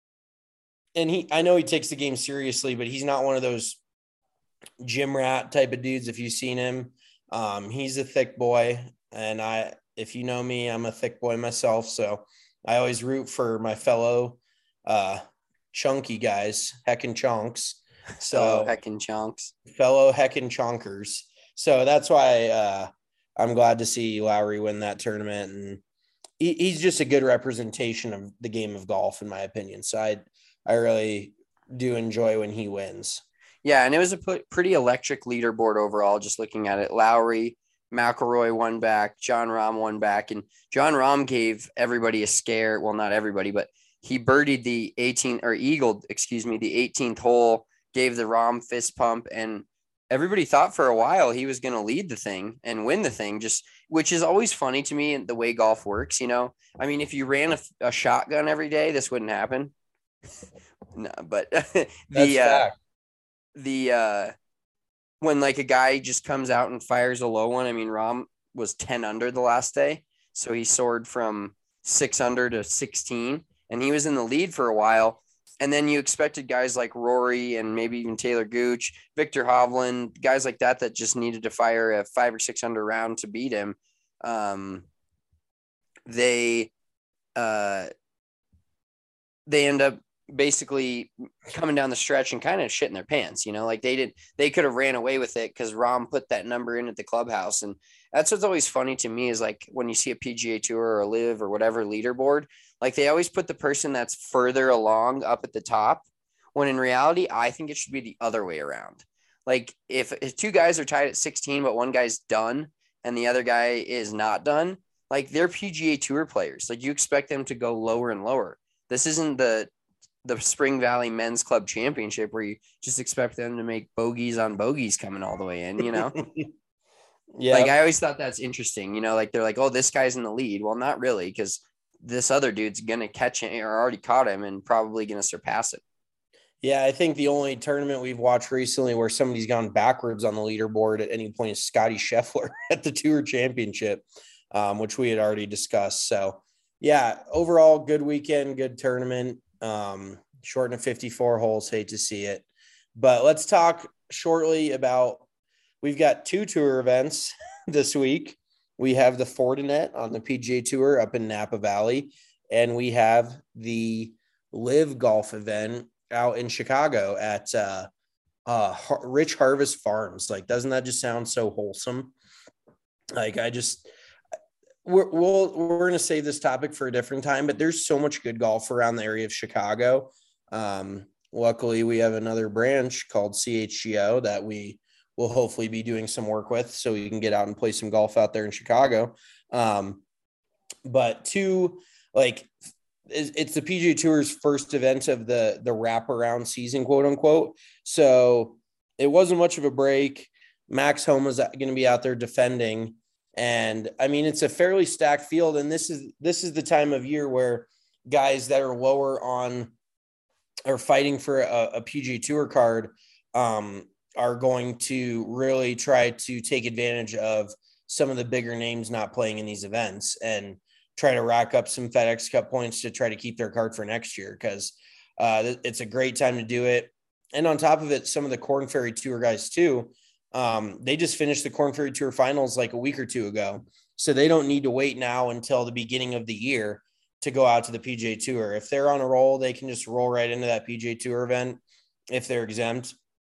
And he, I know he takes the game seriously, but he's not one of those gym rat type of dudes. If you've seen him, um, he's a thick boy. And I, if you know me, I'm a thick boy myself. So I always root for my fellow uh, chunky guys, heckin' chunks. So oh, heckin' chunks, fellow heckin' chonkers. So that's why uh, I'm glad to see Lowry win that tournament. And he, he's just a good representation of the game of golf, in my opinion. So I, I really do enjoy when he wins. Yeah, and it was a pretty electric leaderboard overall, just looking at it. Lowry, McIlroy won back, Jon Rahm won back, and Jon Rahm gave everybody a scare. Well, not everybody, but he birdied the eighteenth or eagled, excuse me, the eighteenth hole, gave the Rahm fist pump, and everybody thought for a while he was going to lead the thing and win the thing, just which is always funny to me, the way golf works. You know, I mean, if you ran a, a shotgun every day, this wouldn't happen. No, but the uh, the uh, when like a guy just comes out and fires a low one. I mean, Rahm was ten under the last day, so he soared from six under to sixteen, and he was in the lead for a while. And then you expected guys like Rory and maybe even Taylor Gooch, Victor Hovland, guys like that that just needed to fire a five or six under round to beat him. Um, they uh, they end up basically coming down the stretch and kind of shitting their pants, you know, like they did, they could have ran away with it because Rahm put that number in at the clubhouse. And that's what's always funny to me is like when you see a P G A Tour or a Live or whatever leaderboard, like they always put the person that's further along up at the top, when in reality, I think it should be the other way around. Like if, if two guys are tied at sixteen, but one guy's done and the other guy is not done, like they're P G A Tour players. Like you expect them to go lower and lower. This isn't the the Spring Valley Men's Club Championship where you just expect them to make bogeys on bogeys coming all the way in, you know? Yeah. Like I always thought that's interesting, you know, like they're like, oh, this guy's in the lead. Well, not really, because this other dude's going to catch it or already caught him and probably going to surpass it. Yeah, I think the only tournament we've watched recently where somebody's gone backwards on the leaderboard at any point is Scotty Scheffler at the Tour Championship, um, which we had already discussed. So, yeah, overall, good weekend, good tournament. Um, short of fifty-four holes, hate to see it. But let's talk shortly about, we've got two tour events this week. We have the Fortinet on the P G A Tour up in Napa Valley, and we have the Live Golf event out in Chicago at uh, uh, Rich Harvest Farms. Like, doesn't that just sound so wholesome? Like, I just – We're, we'll, we're going to save this topic for a different time, but there's so much good golf around the area of Chicago. Um, luckily, we have another branch called C H G O that we will hopefully be doing some work with so we can get out and play some golf out there in Chicago. Um, but two, like, it's the P G A Tour's first event of the, the wraparound season, quote unquote. So it wasn't much of a break. Max Homa's going to be out there defending. And I mean, it's a fairly stacked field. And this is, this is the time of year where guys that are lower on are fighting for a, a P G A Tour card um, are going to really try to take advantage of some of the bigger names not playing in these events and try to rack up some FedEx Cup points to try to keep their card for next year. Cause uh, it's a great time to do it. And on top of it, some of the Korn Ferry Tour guys too, Um, they just finished the Korn Ferry Tour finals like a week or two ago. So they don't need to wait now until the beginning of the year to go out to the P G A Tour. If they're on a roll, they can just roll right into that P G A Tour event if they're exempt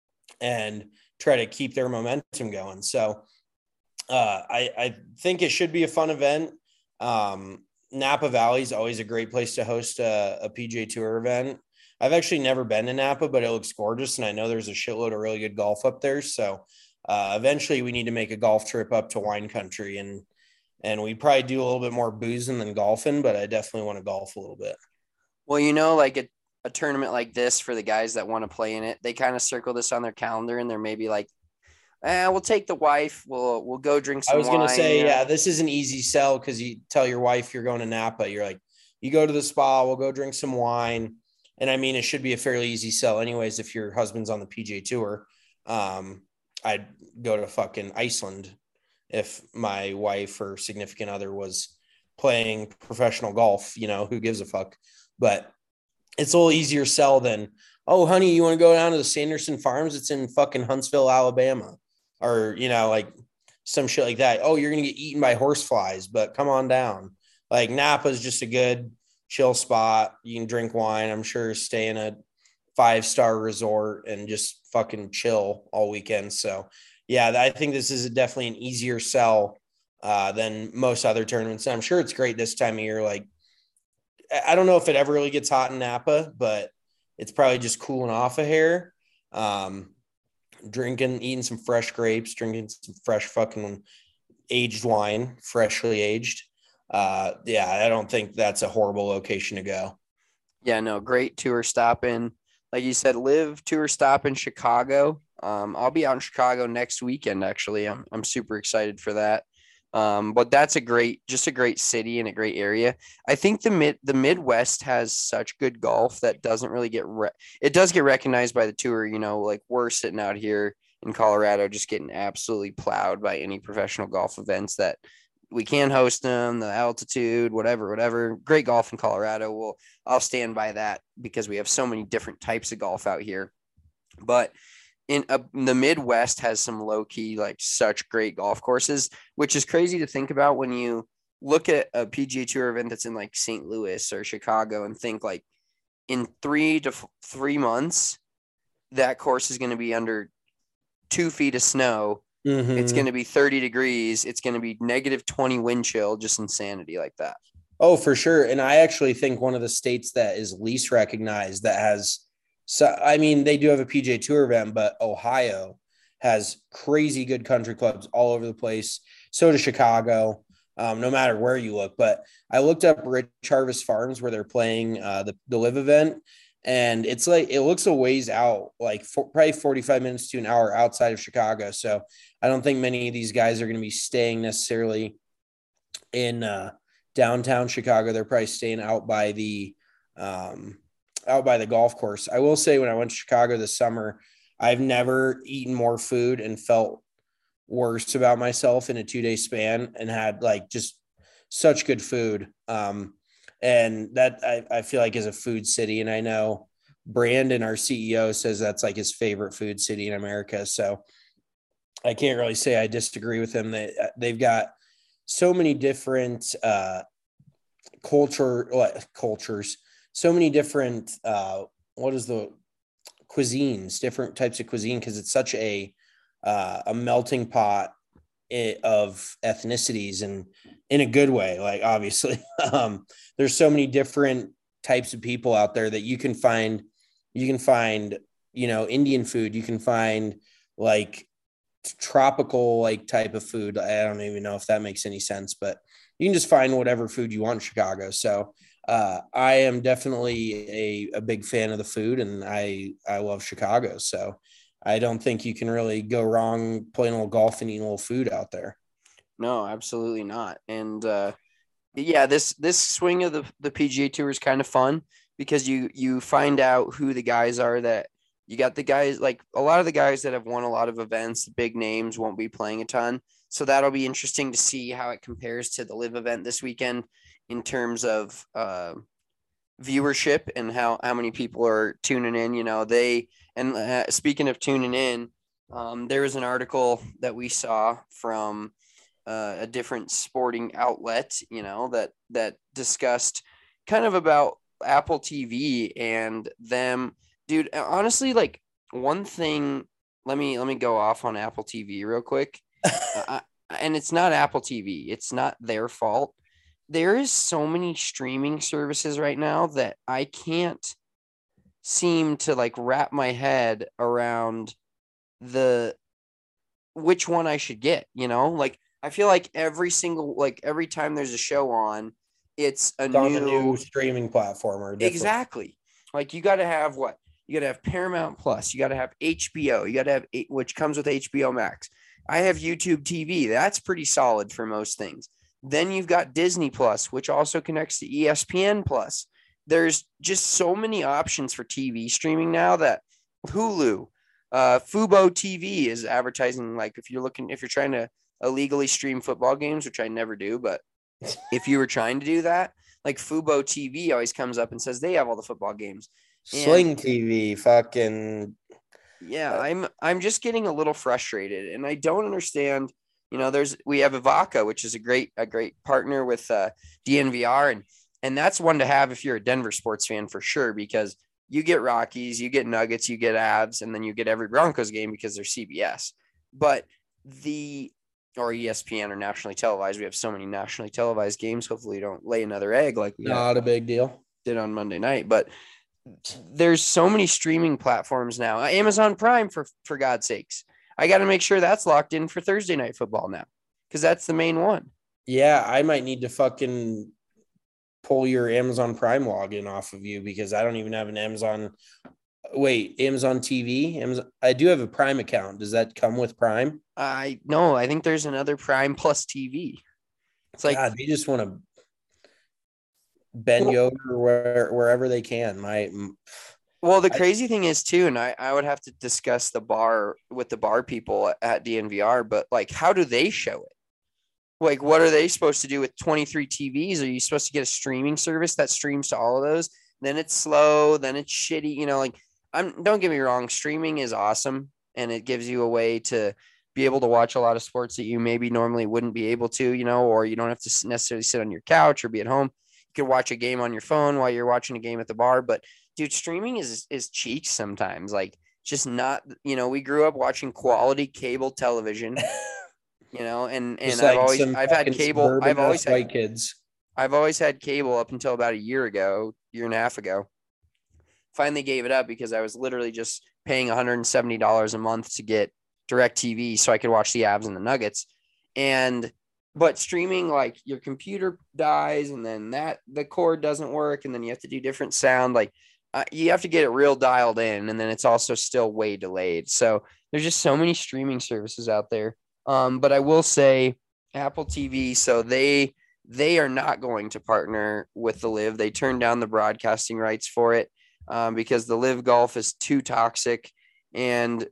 and try to keep their momentum going. So uh, I, I think it should be a fun event. Um, Napa Valley is always a great place to host a, a P G A Tour event. I've actually never been to Napa, but it looks gorgeous. And I know there's a shitload of really good golf up there. So uh, eventually we need to make a golf trip up to wine country, and, and we probably do a little bit more boozing than golfing, but I definitely want to golf a little bit. Well, you know, like a, a tournament like this for the guys that want to play in it, they kind of circle this on their calendar and they're maybe like, eh, we'll take the wife. We'll, we'll go drink some I was going to say, you know? yeah, this is an easy sell. Cause you tell your wife you're going to Napa. You're like, you go to the spa, we'll go drink some wine. And I mean, it should be a fairly easy sell anyways. If your husband's on the P G A Tour, um, I'd go to fucking Iceland if my wife or significant other was playing professional golf. You know, who gives a fuck? But it's a little easier sell than, oh, honey, you want to go down to the Sanderson Farms? It's in fucking Huntsville, Alabama, or, you know, like some shit like that. Oh, you're going to get eaten by horseflies, but come on down. Like Napa is just a good chill spot. You can drink wine. I'm sure stay in a five-star resort and just fucking chill all weekend. So yeah, I think this is definitely an easier sell uh, than most other tournaments. And I'm sure it's great this time of year. Like, I don't know if it ever really gets hot in Napa, but it's probably just cooling off a hair. Um, drinking, eating some fresh grapes, drinking some fresh fucking aged wine, freshly aged. Uh, yeah, I don't think that's a horrible location to go. Yeah, no, great tour stop in. Like you said, live tour stop in Chicago. Um, I'll be out in Chicago next weekend, actually. I'm I'm super excited for that. Um, but that's a great, just a great city and a great area. I think the mid the Midwest has such good golf that doesn't really get re- it does get recognized by the tour. You know, like we're sitting out here in Colorado, just getting absolutely plowed by any professional golf events that we can host them, the altitude, whatever, whatever. Great golf in Colorado. Well, I'll stand by that because we have so many different types of golf out here. But in, uh, the Midwest has some low key, like such great golf courses, which is crazy to think about when you look at a P G A Tour event that's in like Saint Louis or Chicago and think like in three to f- three months, that course is going to be under two feet of snow. Mm-hmm. It's going to be thirty degrees. It's going to be negative twenty wind chill, just insanity like that. Oh, for sure. And I actually think one of the states that is least recognized that has, so I mean, they do have a P G A Tour event, but Ohio has crazy good country clubs all over the place. So does Chicago, um, no matter where you look. But I looked up Rich Harvest Farms where they're playing uh, the, the live event. And it's like, it looks a ways out, like for, probably forty-five minutes to an hour outside of Chicago. So I don't think many of these guys are going to be staying necessarily in uh, downtown Chicago. They're probably staying out by the, um, out by the golf course. I will say when I went to Chicago this summer, I've never eaten more food and felt worse about myself in a two day span and had like just such good food. Um, And that I, I feel like is a food city. And I know Brandon, our C E O, says that's like his favorite food city in America. So I can't really say I disagree with him. They, they've got so many different uh, culture cultures, so many different, uh, what is the cuisines, different types of cuisine, because it's such a, uh, a melting pot of ethnicities and in a good way. Like obviously um there's so many different types of people out there that you can find you can find you know Indian food, you can find like tropical like type of food. I don't even know if that makes any sense, but you can just find whatever food you want in Chicago. So uh I am definitely a, a big fan of the food, and I I love Chicago. So I don't think you can really go wrong playing a little golf and eating a little food out there. No, absolutely not. And uh, yeah, this this swing of the, the P G A Tour is kind of fun because you you find out who the guys are that you got. The guys, like a lot of the guys that have won a lot of events, the big names won't be playing a ton. So that'll be interesting to see how it compares to the live event this weekend in terms of uh, viewership and how, how many people are tuning in. You know, they – and uh, speaking of tuning in, um, there was an article that we saw from uh, a different sporting outlet, you know, that that discussed kind of about Apple T V and them. Dude, honestly, like one thing, let me let me go off on Apple T V real quick. uh, and it's not Apple T V. It's not their fault. There is so many streaming services right now that I can't seem to like wrap my head around the which one I should get, you know? Like I feel like every single like every time there's a show on, it's a, it's new, on a new streaming platform or different. Exactly. Like you got to have what? You got to have Paramount Plus, you got to have H B O, you got to have which comes with H B O Max. I have YouTube T V. That's pretty solid for most things. Then you've got Disney Plus, which also connects to E S P N Plus. there's just so many options for T V streaming now that Hulu, uh, Fubo T V is advertising. Like if you're looking, if you're trying to illegally stream football games, which I never do, but if you were trying to do that, like Fubo T V always comes up and says they have all the football games. Sling And, T V, fucking. Yeah, I'm I'm just getting a little frustrated, and I don't understand. You know, there's we have Avaca, which is a great a great partner with uh, D N V R, and and that's one to have if you're a Denver sports fan for sure, because you get Rockies, you get Nuggets, you get Avs, and then you get every Broncos game because they're C B S. But the or E S P N or nationally televised. We have so many nationally televised games. Hopefully, you don't lay another egg like we Not a big deal. did on Monday night, but there's so many streaming platforms now. Amazon Prime, for for God's sakes. I got to make sure that's locked in for Thursday night football now, because that's the main one. Yeah, I might need to fucking pull your Amazon Prime login off of you because I don't even have an Amazon. Wait, Amazon T V? Amazon. I do have a Prime account. Does that come with Prime? I no, I think there's another Prime Plus T V. It's like God, they just want to bend you over where, wherever they can. My Well, the crazy I, thing is too, and I, I would have to discuss the bar with the bar people at D N V R, but like, how do they show it? Like, what are they supposed to do with twenty-three T Vs? Are you supposed to get a streaming service that streams to all of those? Then it's slow, then it's shitty. You know, like, I'm, don't get me wrong. Streaming is awesome, and it gives you a way to be able to watch a lot of sports that you maybe normally wouldn't be able to, you know, or you don't have to necessarily sit on your couch or be at home. You could watch a game on your phone while you're watching a game at the bar, but dude, streaming is is cheap sometimes. Like, just not, you know, we grew up watching quality cable television, you know, and and Just I've like always some I've had fucking cable. I've always white had kids. I've always had cable up until about a year ago, year and a half ago. Finally gave it up because I was literally just paying one hundred seventy dollars a month to get DirecTV so I could watch the Avs and the Nuggets. And but streaming, like, your computer dies and then that the cord doesn't work and then you have to do different sound. Like, uh, you have to get it real dialed in, and then it's also still way delayed. So there's just so many streaming services out there. Um, but I will say Apple T V, so they they are not going to partner with the Live. They turned down the broadcasting rights for it um, because the Live Golf is too toxic. And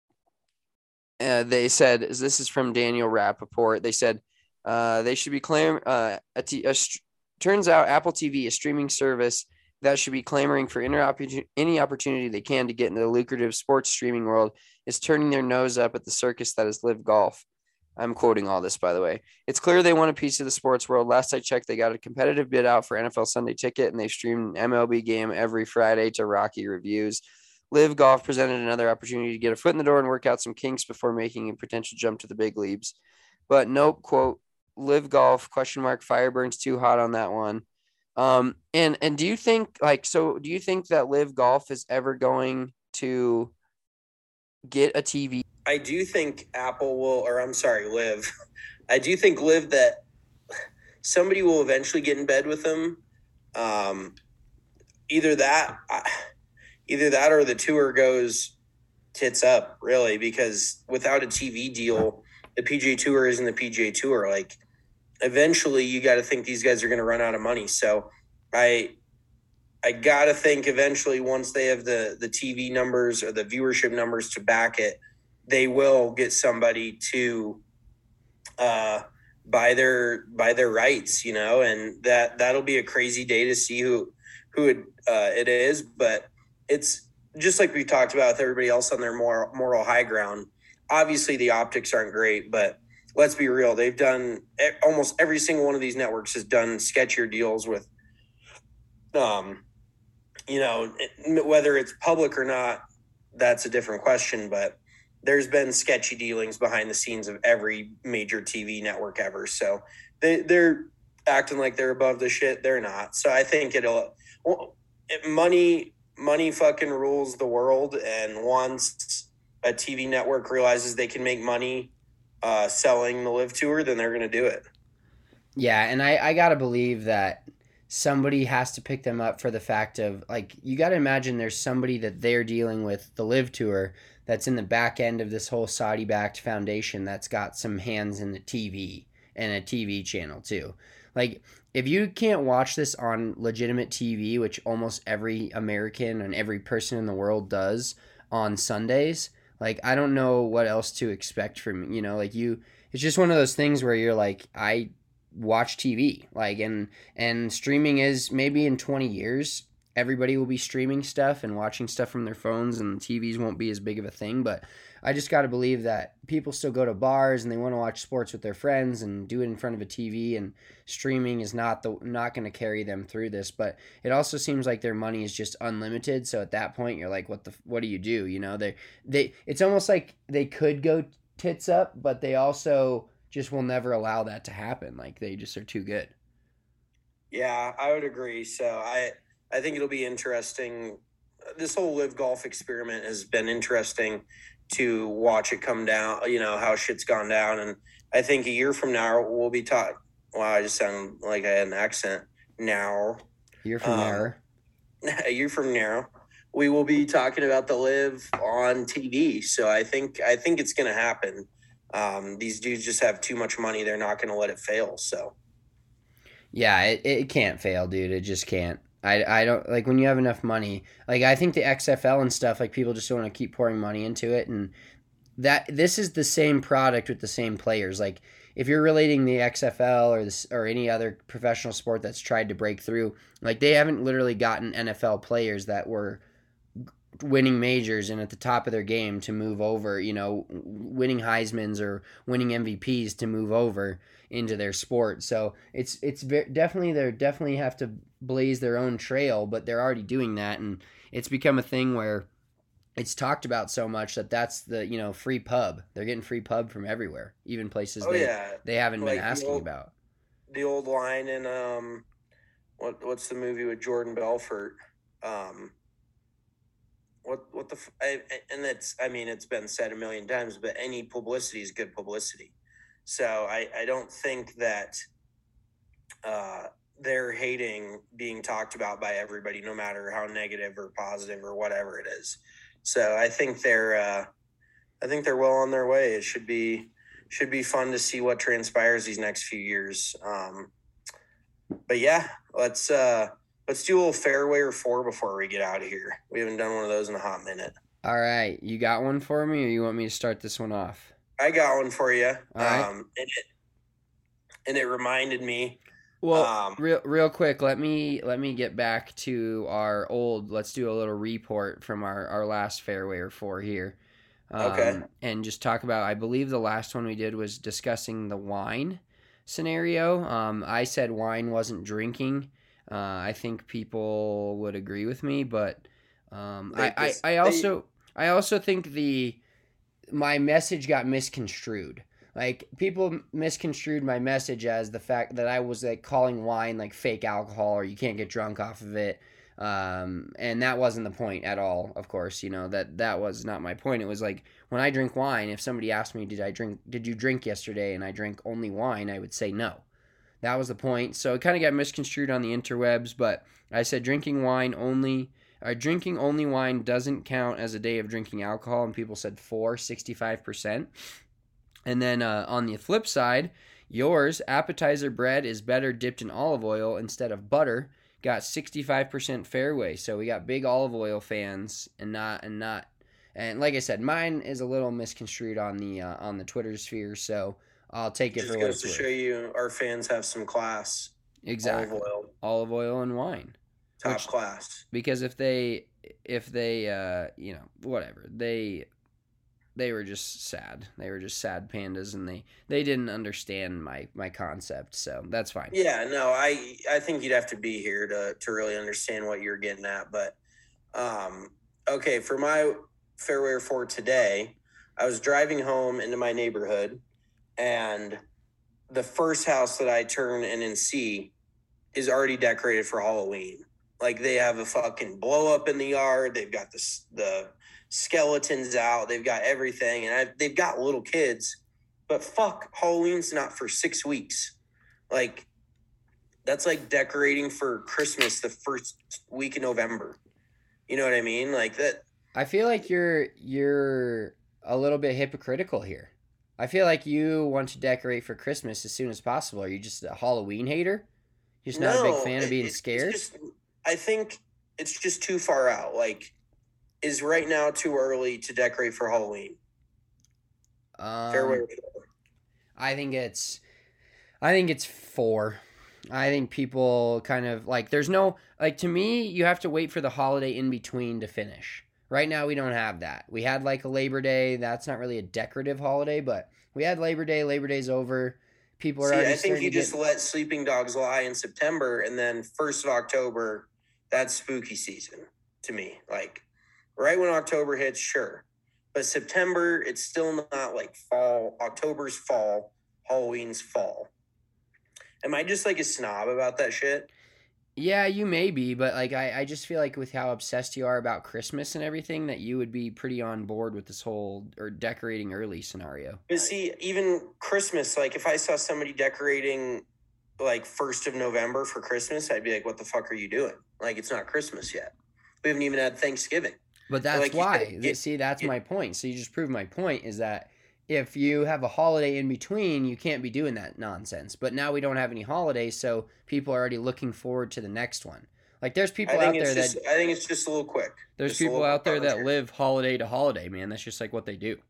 uh, they said, this is from Daniel Rappaport, they said uh, they should be claim uh, a t- a st- turns out Apple T V, a streaming service that should be clamoring for inter- any opportunity they can to get into the lucrative sports streaming world, is turning their nose up at the circus that is Live Golf. I'm quoting all this, by the way. It's clear they want a piece of the sports world. Last I checked, they got a competitive bid out for N F L Sunday Ticket, and they streamed an M L B game every Friday to rocky reviews. Live Golf presented another opportunity to get a foot in the door and work out some kinks before making a potential jump to the big leagues. But nope, quote, Live Golf, question mark, fire burns too hot on that one. Um, and, and do you think, like, so do you think that Live Golf is ever going to get a T V? I do think Apple will, or I'm sorry, Live. I do think Live that somebody will eventually get in bed with them. Um, either that, either that, or the tour goes tits up, really, because without a T V deal, the P G A Tour isn't the P G A Tour. Like, eventually, you got to think these guys are going to run out of money. So, I. I got to think eventually once they have the, the T V numbers or the viewership numbers to back it, they will get somebody to uh, buy their buy their rights, you know, and that that'll be a crazy day to see who who it, uh, it is. But it's just like we talked about with everybody else on their moral, moral high ground. Obviously, the optics aren't great, but let's be real. They've done almost every single one of these networks has done sketchier deals with um. You know, whether it's public or not, that's a different question. But there's been sketchy dealings behind the scenes of every major T V network ever. So they, they're acting like they're above the shit. They're not. So I think it'll well, it, money, money fucking rules the world. And once a T V network realizes they can make money uh, selling the Live Tour, then they're going to do it. Yeah, and I, I got to believe that somebody has to pick them up for the fact of, like, you got to imagine there's somebody that they're dealing with, the Live Tour, that's in the back end of this whole Saudi-backed foundation that's got some hands in the T V. and a T V channel too. Like, if you can't watch this on legitimate T V, which almost every American and every person in the world does on Sundays, like, I don't know what else to expect from, you know, like you, it's just one of those things where you're like, I watch T V, like, and, and streaming is maybe in twenty years, everybody will be streaming stuff and watching stuff from their phones and T Vs won't be as big of a thing. But I just got to believe that people still go to bars and they want to watch sports with their friends and do it in front of a T V, and streaming is not the not going to carry them through this. But it also seems like their money is just unlimited. So at that point, you're like, what the what do you do? You know, they they it's almost like they could go tits up, but they also just will never allow that to happen. Like, they just are too good. Yeah, I would agree. So I I think it'll be interesting. This whole live golf experiment has been interesting to watch it come down, you know, how shit's gone down. And I think a year from now, we'll be taught, wow, I just sound like I had an accent. Now. A year from um, now. A year from now, we will be talking about the live on T V. So I think, I think it's going to happen. Um, these dudes just have too much money. They're not going to let it fail. So. Yeah, it, it can't fail, dude. It just can't. I, I don't like when you have enough money. Like, I think the X F L and stuff, like, people just want to keep pouring money into it, and that this is the same product with the same players. Like, if you're relating the X F L or this or any other professional sport that's tried to break through, like, they haven't literally gotten N F L players that were winning majors and at the top of their game to move over, you know, winning Heismans or winning M V Ps to move over into their sport. So it's it's very, definitely they definitely have to blaze their own trail, but they're already doing that, and it's become a thing where it's talked about so much that that's the, you know, free pub. They're getting free pub from everywhere, even places oh, they yeah. they haven't like been asking the old, about. The old line in um, what what's the movie with Jordan Belfort? Um, what what the I, and it's I mean it's been said a million times, but any publicity is good publicity. So I I don't think that uh. they're hating being talked about by everybody, no matter how negative or positive or whatever it is. So I think they're, uh, I think they're well on their way. It should be, should be fun to see what transpires these next few years. Um, but yeah, let's, uh, let's do a little fairway or four before we get out of here. We haven't done one of those in a hot minute. All right. You got one for me, or you want me to start this one off? I got one for you. All right. Um, and it, and it reminded me, Well, um, real real quick, let me let me get back to our old. Let's do a little report from our, our last fairway or four here, um, Okay. and just talk about. I believe the last one we did was discussing the wine scenario. Um, I said wine wasn't drinking. Uh, I think people would agree with me, but um, I, I I also I also think the my message got misconstrued. Like, people misconstrued my message as the fact that I was, like, calling wine, like, fake alcohol, or you can't get drunk off of it. Um, and that wasn't the point at all, of course. You know, that that was not my point. It was like, when I drink wine, if somebody asked me, did I drink, did you drink yesterday, and I drank only wine, I would say no. That was the point. So it kind of got misconstrued on the interwebs, but I said drinking wine only, or drinking only wine doesn't count as a day of drinking alcohol, and people said four, sixty-five percent. And then uh, on the flip side, yours, appetizer bread is better dipped in olive oil instead of butter, got sixty-five percent fairway. So we got big olive oil fans, and not and not and like I said, mine is a little misconstrued on the uh, on the Twitter sphere. So I'll take it just for what goes it's to worth. show you our fans have some class. Exactly, Olive oil, olive oil and wine, top Which- class. because if they if they uh, you know whatever they. They were just sad. They were just sad pandas, and they, they didn't understand my, my concept, so that's fine. Yeah, no, I I think you'd have to be here to to really understand what you're getting at. But um, okay, for my fairway for today, I was driving home into my neighborhood, and the first house that I turn in and see is already decorated for Halloween. Like, they have a fucking blow up in the yard. They've got the the skeletons out. They've got everything, and I've, they've got little kids. But fuck, Halloween's not for six weeks. Like, that's like decorating for Christmas the first week of November. You know what I mean? Like that. I feel like you're you're a little bit hypocritical here. I feel like you want to decorate for Christmas as soon as possible. Are you just a Halloween hater? You're just not no, a big fan of being it, scared? It's just, I think it's just too far out. Like, is right now too early to decorate for Halloween? Um, Fairway. I think it's, I think it's four. I think people kind of like, there's no, like to me, you have to wait for the holiday in between to finish. Right now, we don't have that. We had like a Labor Day. That's not really a decorative holiday, but we had Labor Day. Labor Day's over. People are See, already I think you to just get... let sleeping dogs lie in September, and then first of October, that's spooky season to me. Like, right when October hits, sure. But September, it's still not like fall. October's fall. Halloween's fall. Am I just like a snob about that shit? Yeah, you may be, but like I, I just feel like with how obsessed you are about Christmas and everything, that you would be pretty on board with this whole or decorating early scenario. But see, even Christmas, like if I saw somebody decorating like first of November for Christmas, I'd be like, what the fuck are you doing? Like, it's not Christmas yet. We haven't even had Thanksgiving. But that's like, why. Get, see, that's get, my point. So you just proved my point is that if you have a holiday in between, you can't be doing that nonsense. But now we don't have any holidays, so people are already looking forward to the next one. Like there's people out there just, that I think it's just a little quick. There's just people out there that live holiday to holiday, man. That's just like what they do.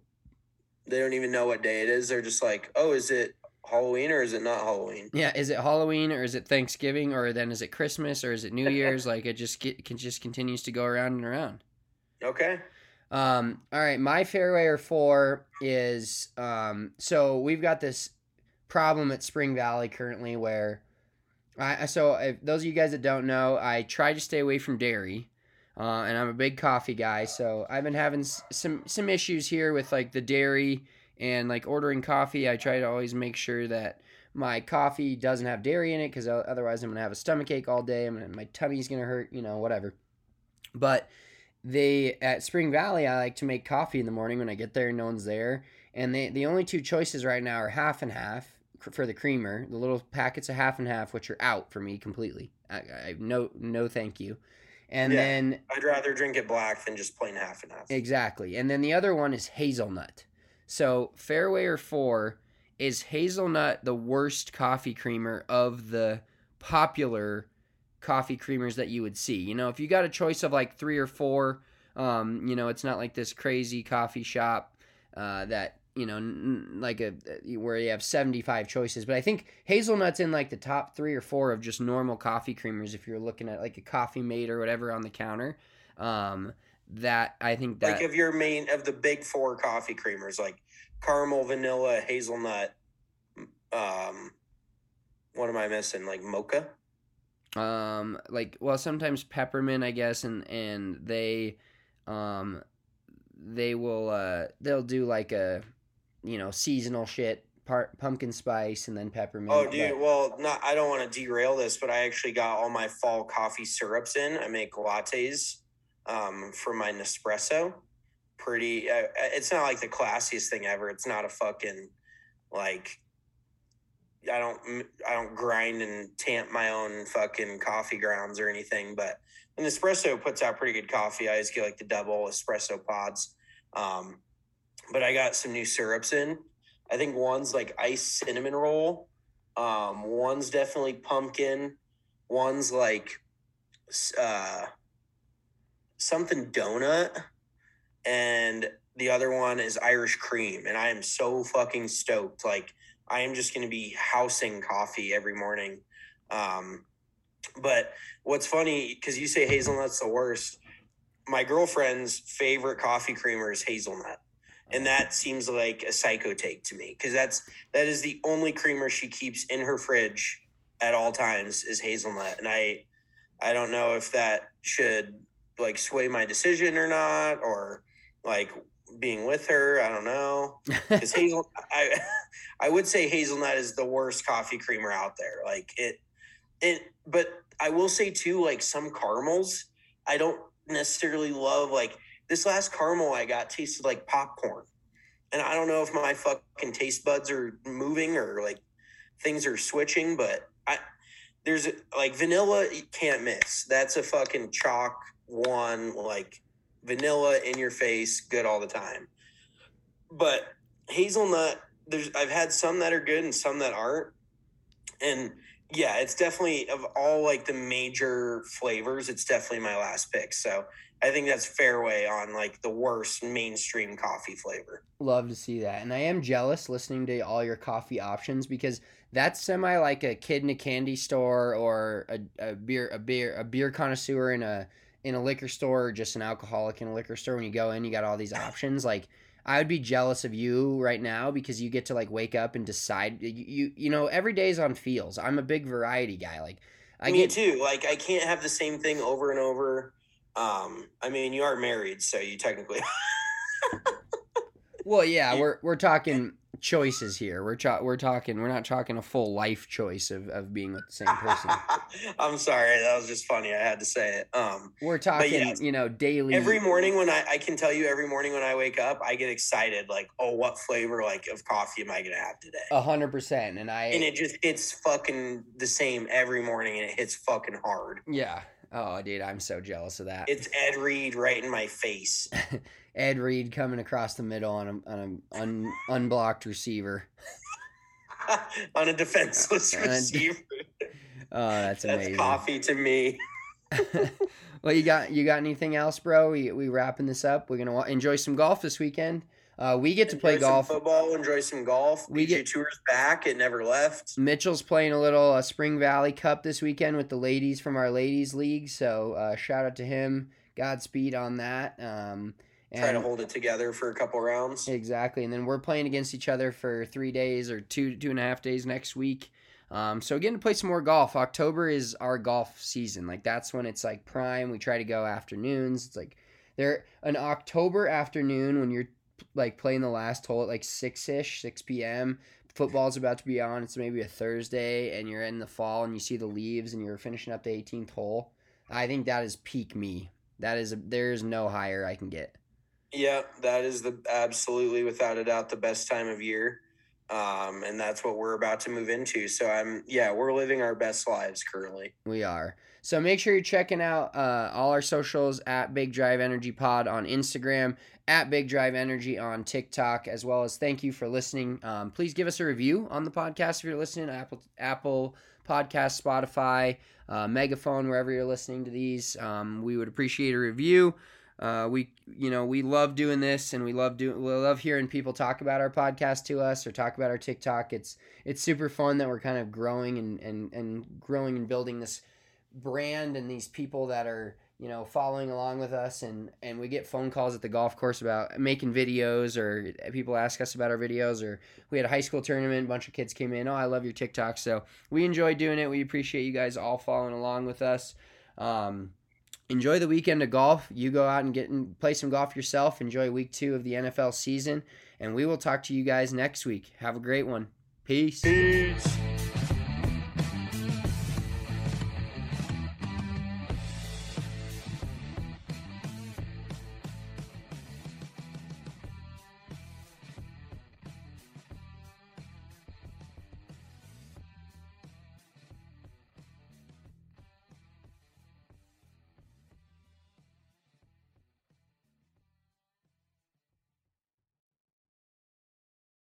They don't even know what day it is. They're just like, oh, is it Halloween or is it not Halloween? Yeah, is it Halloween or is it Thanksgiving or then is it Christmas or is it New Year's? Like it just get, can just continues to go around and around. Okay. Um, all right, my fairway or four is um, so we've got this problem at Spring Valley currently where I so if those of you guys that don't know, I try to stay away from dairy, uh, and I'm a big coffee guy, so I've been having some some issues here with like the dairy and like ordering coffee. I try to always make sure that my coffee doesn't have dairy in it because otherwise I'm gonna have a stomach ache all day. I'm gonna, my tummy's gonna hurt, you know, whatever. But they at Spring Valley, I like to make coffee in the morning when I get there and no one's there. And they, the only two choices right now are half and half for the creamer, the little packets of half and half, which are out for me completely. I, I no no thank you. And yeah, then I'd rather drink it black than just plain half and half. Exactly. And then the other one is hazelnut. So fairway or four, is hazelnut the worst coffee creamer of the popular coffee creamers that you would see? You know, if you got a choice of like three or four, um, you know, it's not like this crazy coffee shop uh, that, you know, n- like a where you have seventy-five choices. But I think hazelnut's in like the top three or four of just normal coffee creamers if you're looking at like a Coffee Mate or whatever on the counter. Um, that I think that like of your main of the big four coffee creamers, like caramel, vanilla, hazelnut. Um, what am I missing? Like mocha. Um, like, well, sometimes peppermint, I guess, and, and they, um, they will, uh, they'll do like a, you know, seasonal shit, part pumpkin spice and then peppermint. Oh, dude, but... well, not, I don't want to derail this, but I actually got all my fall coffee syrups in. I make lattes, um, for my Nespresso. Pretty, uh, it's not like the classiest thing ever. It's not a fucking, like, I don't I don't grind and tamp my own fucking coffee grounds or anything, but an espresso puts out pretty good coffee. I always get like the double espresso pods. Um, but I got some new syrups in. I think one's like iced cinnamon roll. Um, one's definitely pumpkin. One's like uh, something donut. And the other one is Irish cream. And I am so fucking stoked. Like, I am just going to be housing coffee every morning. Um, but what's funny, because you say hazelnut's the worst, my girlfriend's favorite coffee creamer is hazelnut. And that seems like a psycho take to me, because that's that is the only creamer she keeps in her fridge at all times is hazelnut. And I I don't know if that should like sway my decision or not, or like being with her, I don't know. Because hazel, I, I would say hazelnut is the worst coffee creamer out there. Like it, it. But I will say too, like some caramels, I don't necessarily love. Like this last caramel I got tasted like popcorn, and I don't know if my fucking taste buds are moving or like things are switching. But I, there's like vanilla, you can't miss. That's a fucking chalk one, like. Vanilla in your face, good all the time. But hazelnut. There's I've had some that are good and some that aren't, and yeah, it's definitely of all like the major flavors. It's definitely my last pick. So I think that's fairway on like the worst mainstream coffee flavor. Love to see that. And I am jealous listening to all your coffee options because that's semi like a kid in a candy store or a, a beer a beer a beer connoisseur in a in a liquor store or just an alcoholic in a liquor store. When you go in, you got all these options. Like I would be jealous of you right now because you get to like wake up and decide you you, you know, every day's on feels. I'm a big variety guy. Like I Me get too. Like I can't have the same thing over and over. Um, I mean, you are married, so you technically. Well, yeah, we're we're talking choices here. We're cho- we're talking. We're not talking a full life choice of, of being with the same person. I'm sorry, that was just funny. I had to say it. Um, We're talking, yes, you know, daily. every morning when I, I can tell you, every morning when I wake up, I get excited. Like, oh, what flavor like of coffee am I gonna have today? A hundred percent, and I and it just it's fucking the same every morning, and it hits fucking hard. Yeah. Oh, dude, I'm so jealous of that. It's Ed Reed right in my face. Ed Reed coming across the middle on a on an un, unblocked receiver. On a defenseless On a- receiver. Oh, that's amazing. That's coffee to me. Well, you got you got anything else, bro? We we wrapping this up. We're gonna wa- enjoy some golf this weekend. Uh, we get to play Enjoy some golf. football, enjoy some golf. We P G A get- Tour's back. It never left. Mitchell's playing a little uh, Spring Valley Cup this weekend with the ladies from our ladies league. So uh, shout out to him. Godspeed on that. Um, and Try to hold it together for a couple rounds. Exactly, and then we're playing against each other for three days or two two and a half days next week. Um, so getting to play some more golf. October is our golf season. Like that's when it's like prime. We try to go afternoons. It's like there an October afternoon when you're like playing the last hole at like six ish, six p.m. Football's about to be on. It's maybe a Thursday, and you're in the fall, and you see the leaves, and you're finishing up the eighteenth hole. I think that is peak me. That is a, there's no higher I can get. Yeah, that is the absolutely without a doubt the best time of year. Um, and that's what we're about to move into. So I'm, yeah, we're living our best lives currently. We are. So make sure you're checking out uh, all our socials at Big Drive Energy Pod on Instagram, at Big Drive Energy on TikTok, as well as thank you for listening. Um, please give us a review on the podcast if you're listening, Apple Apple Podcast, Spotify, uh, Megaphone, wherever you're listening to these. Um, we would appreciate a review. Uh, we, you know, we love doing this, and we love doing, we love hearing people talk about our podcast to us or talk about our TikTok. It's, it's super fun that we're kind of growing and, and, and growing and building this brand and these people that are, you know, following along with us. And, and we get phone calls at the golf course about making videos, or people ask us about our videos, or we had a high school tournament. A bunch of kids came in. Oh, I love your TikTok. So we enjoy doing it. We appreciate you guys all following along with us. Um, Enjoy the weekend of golf. You go out and get and play some golf yourself. Enjoy week two of the N F L season. And we will talk to you guys next week. Have a great one. Peace. Peace.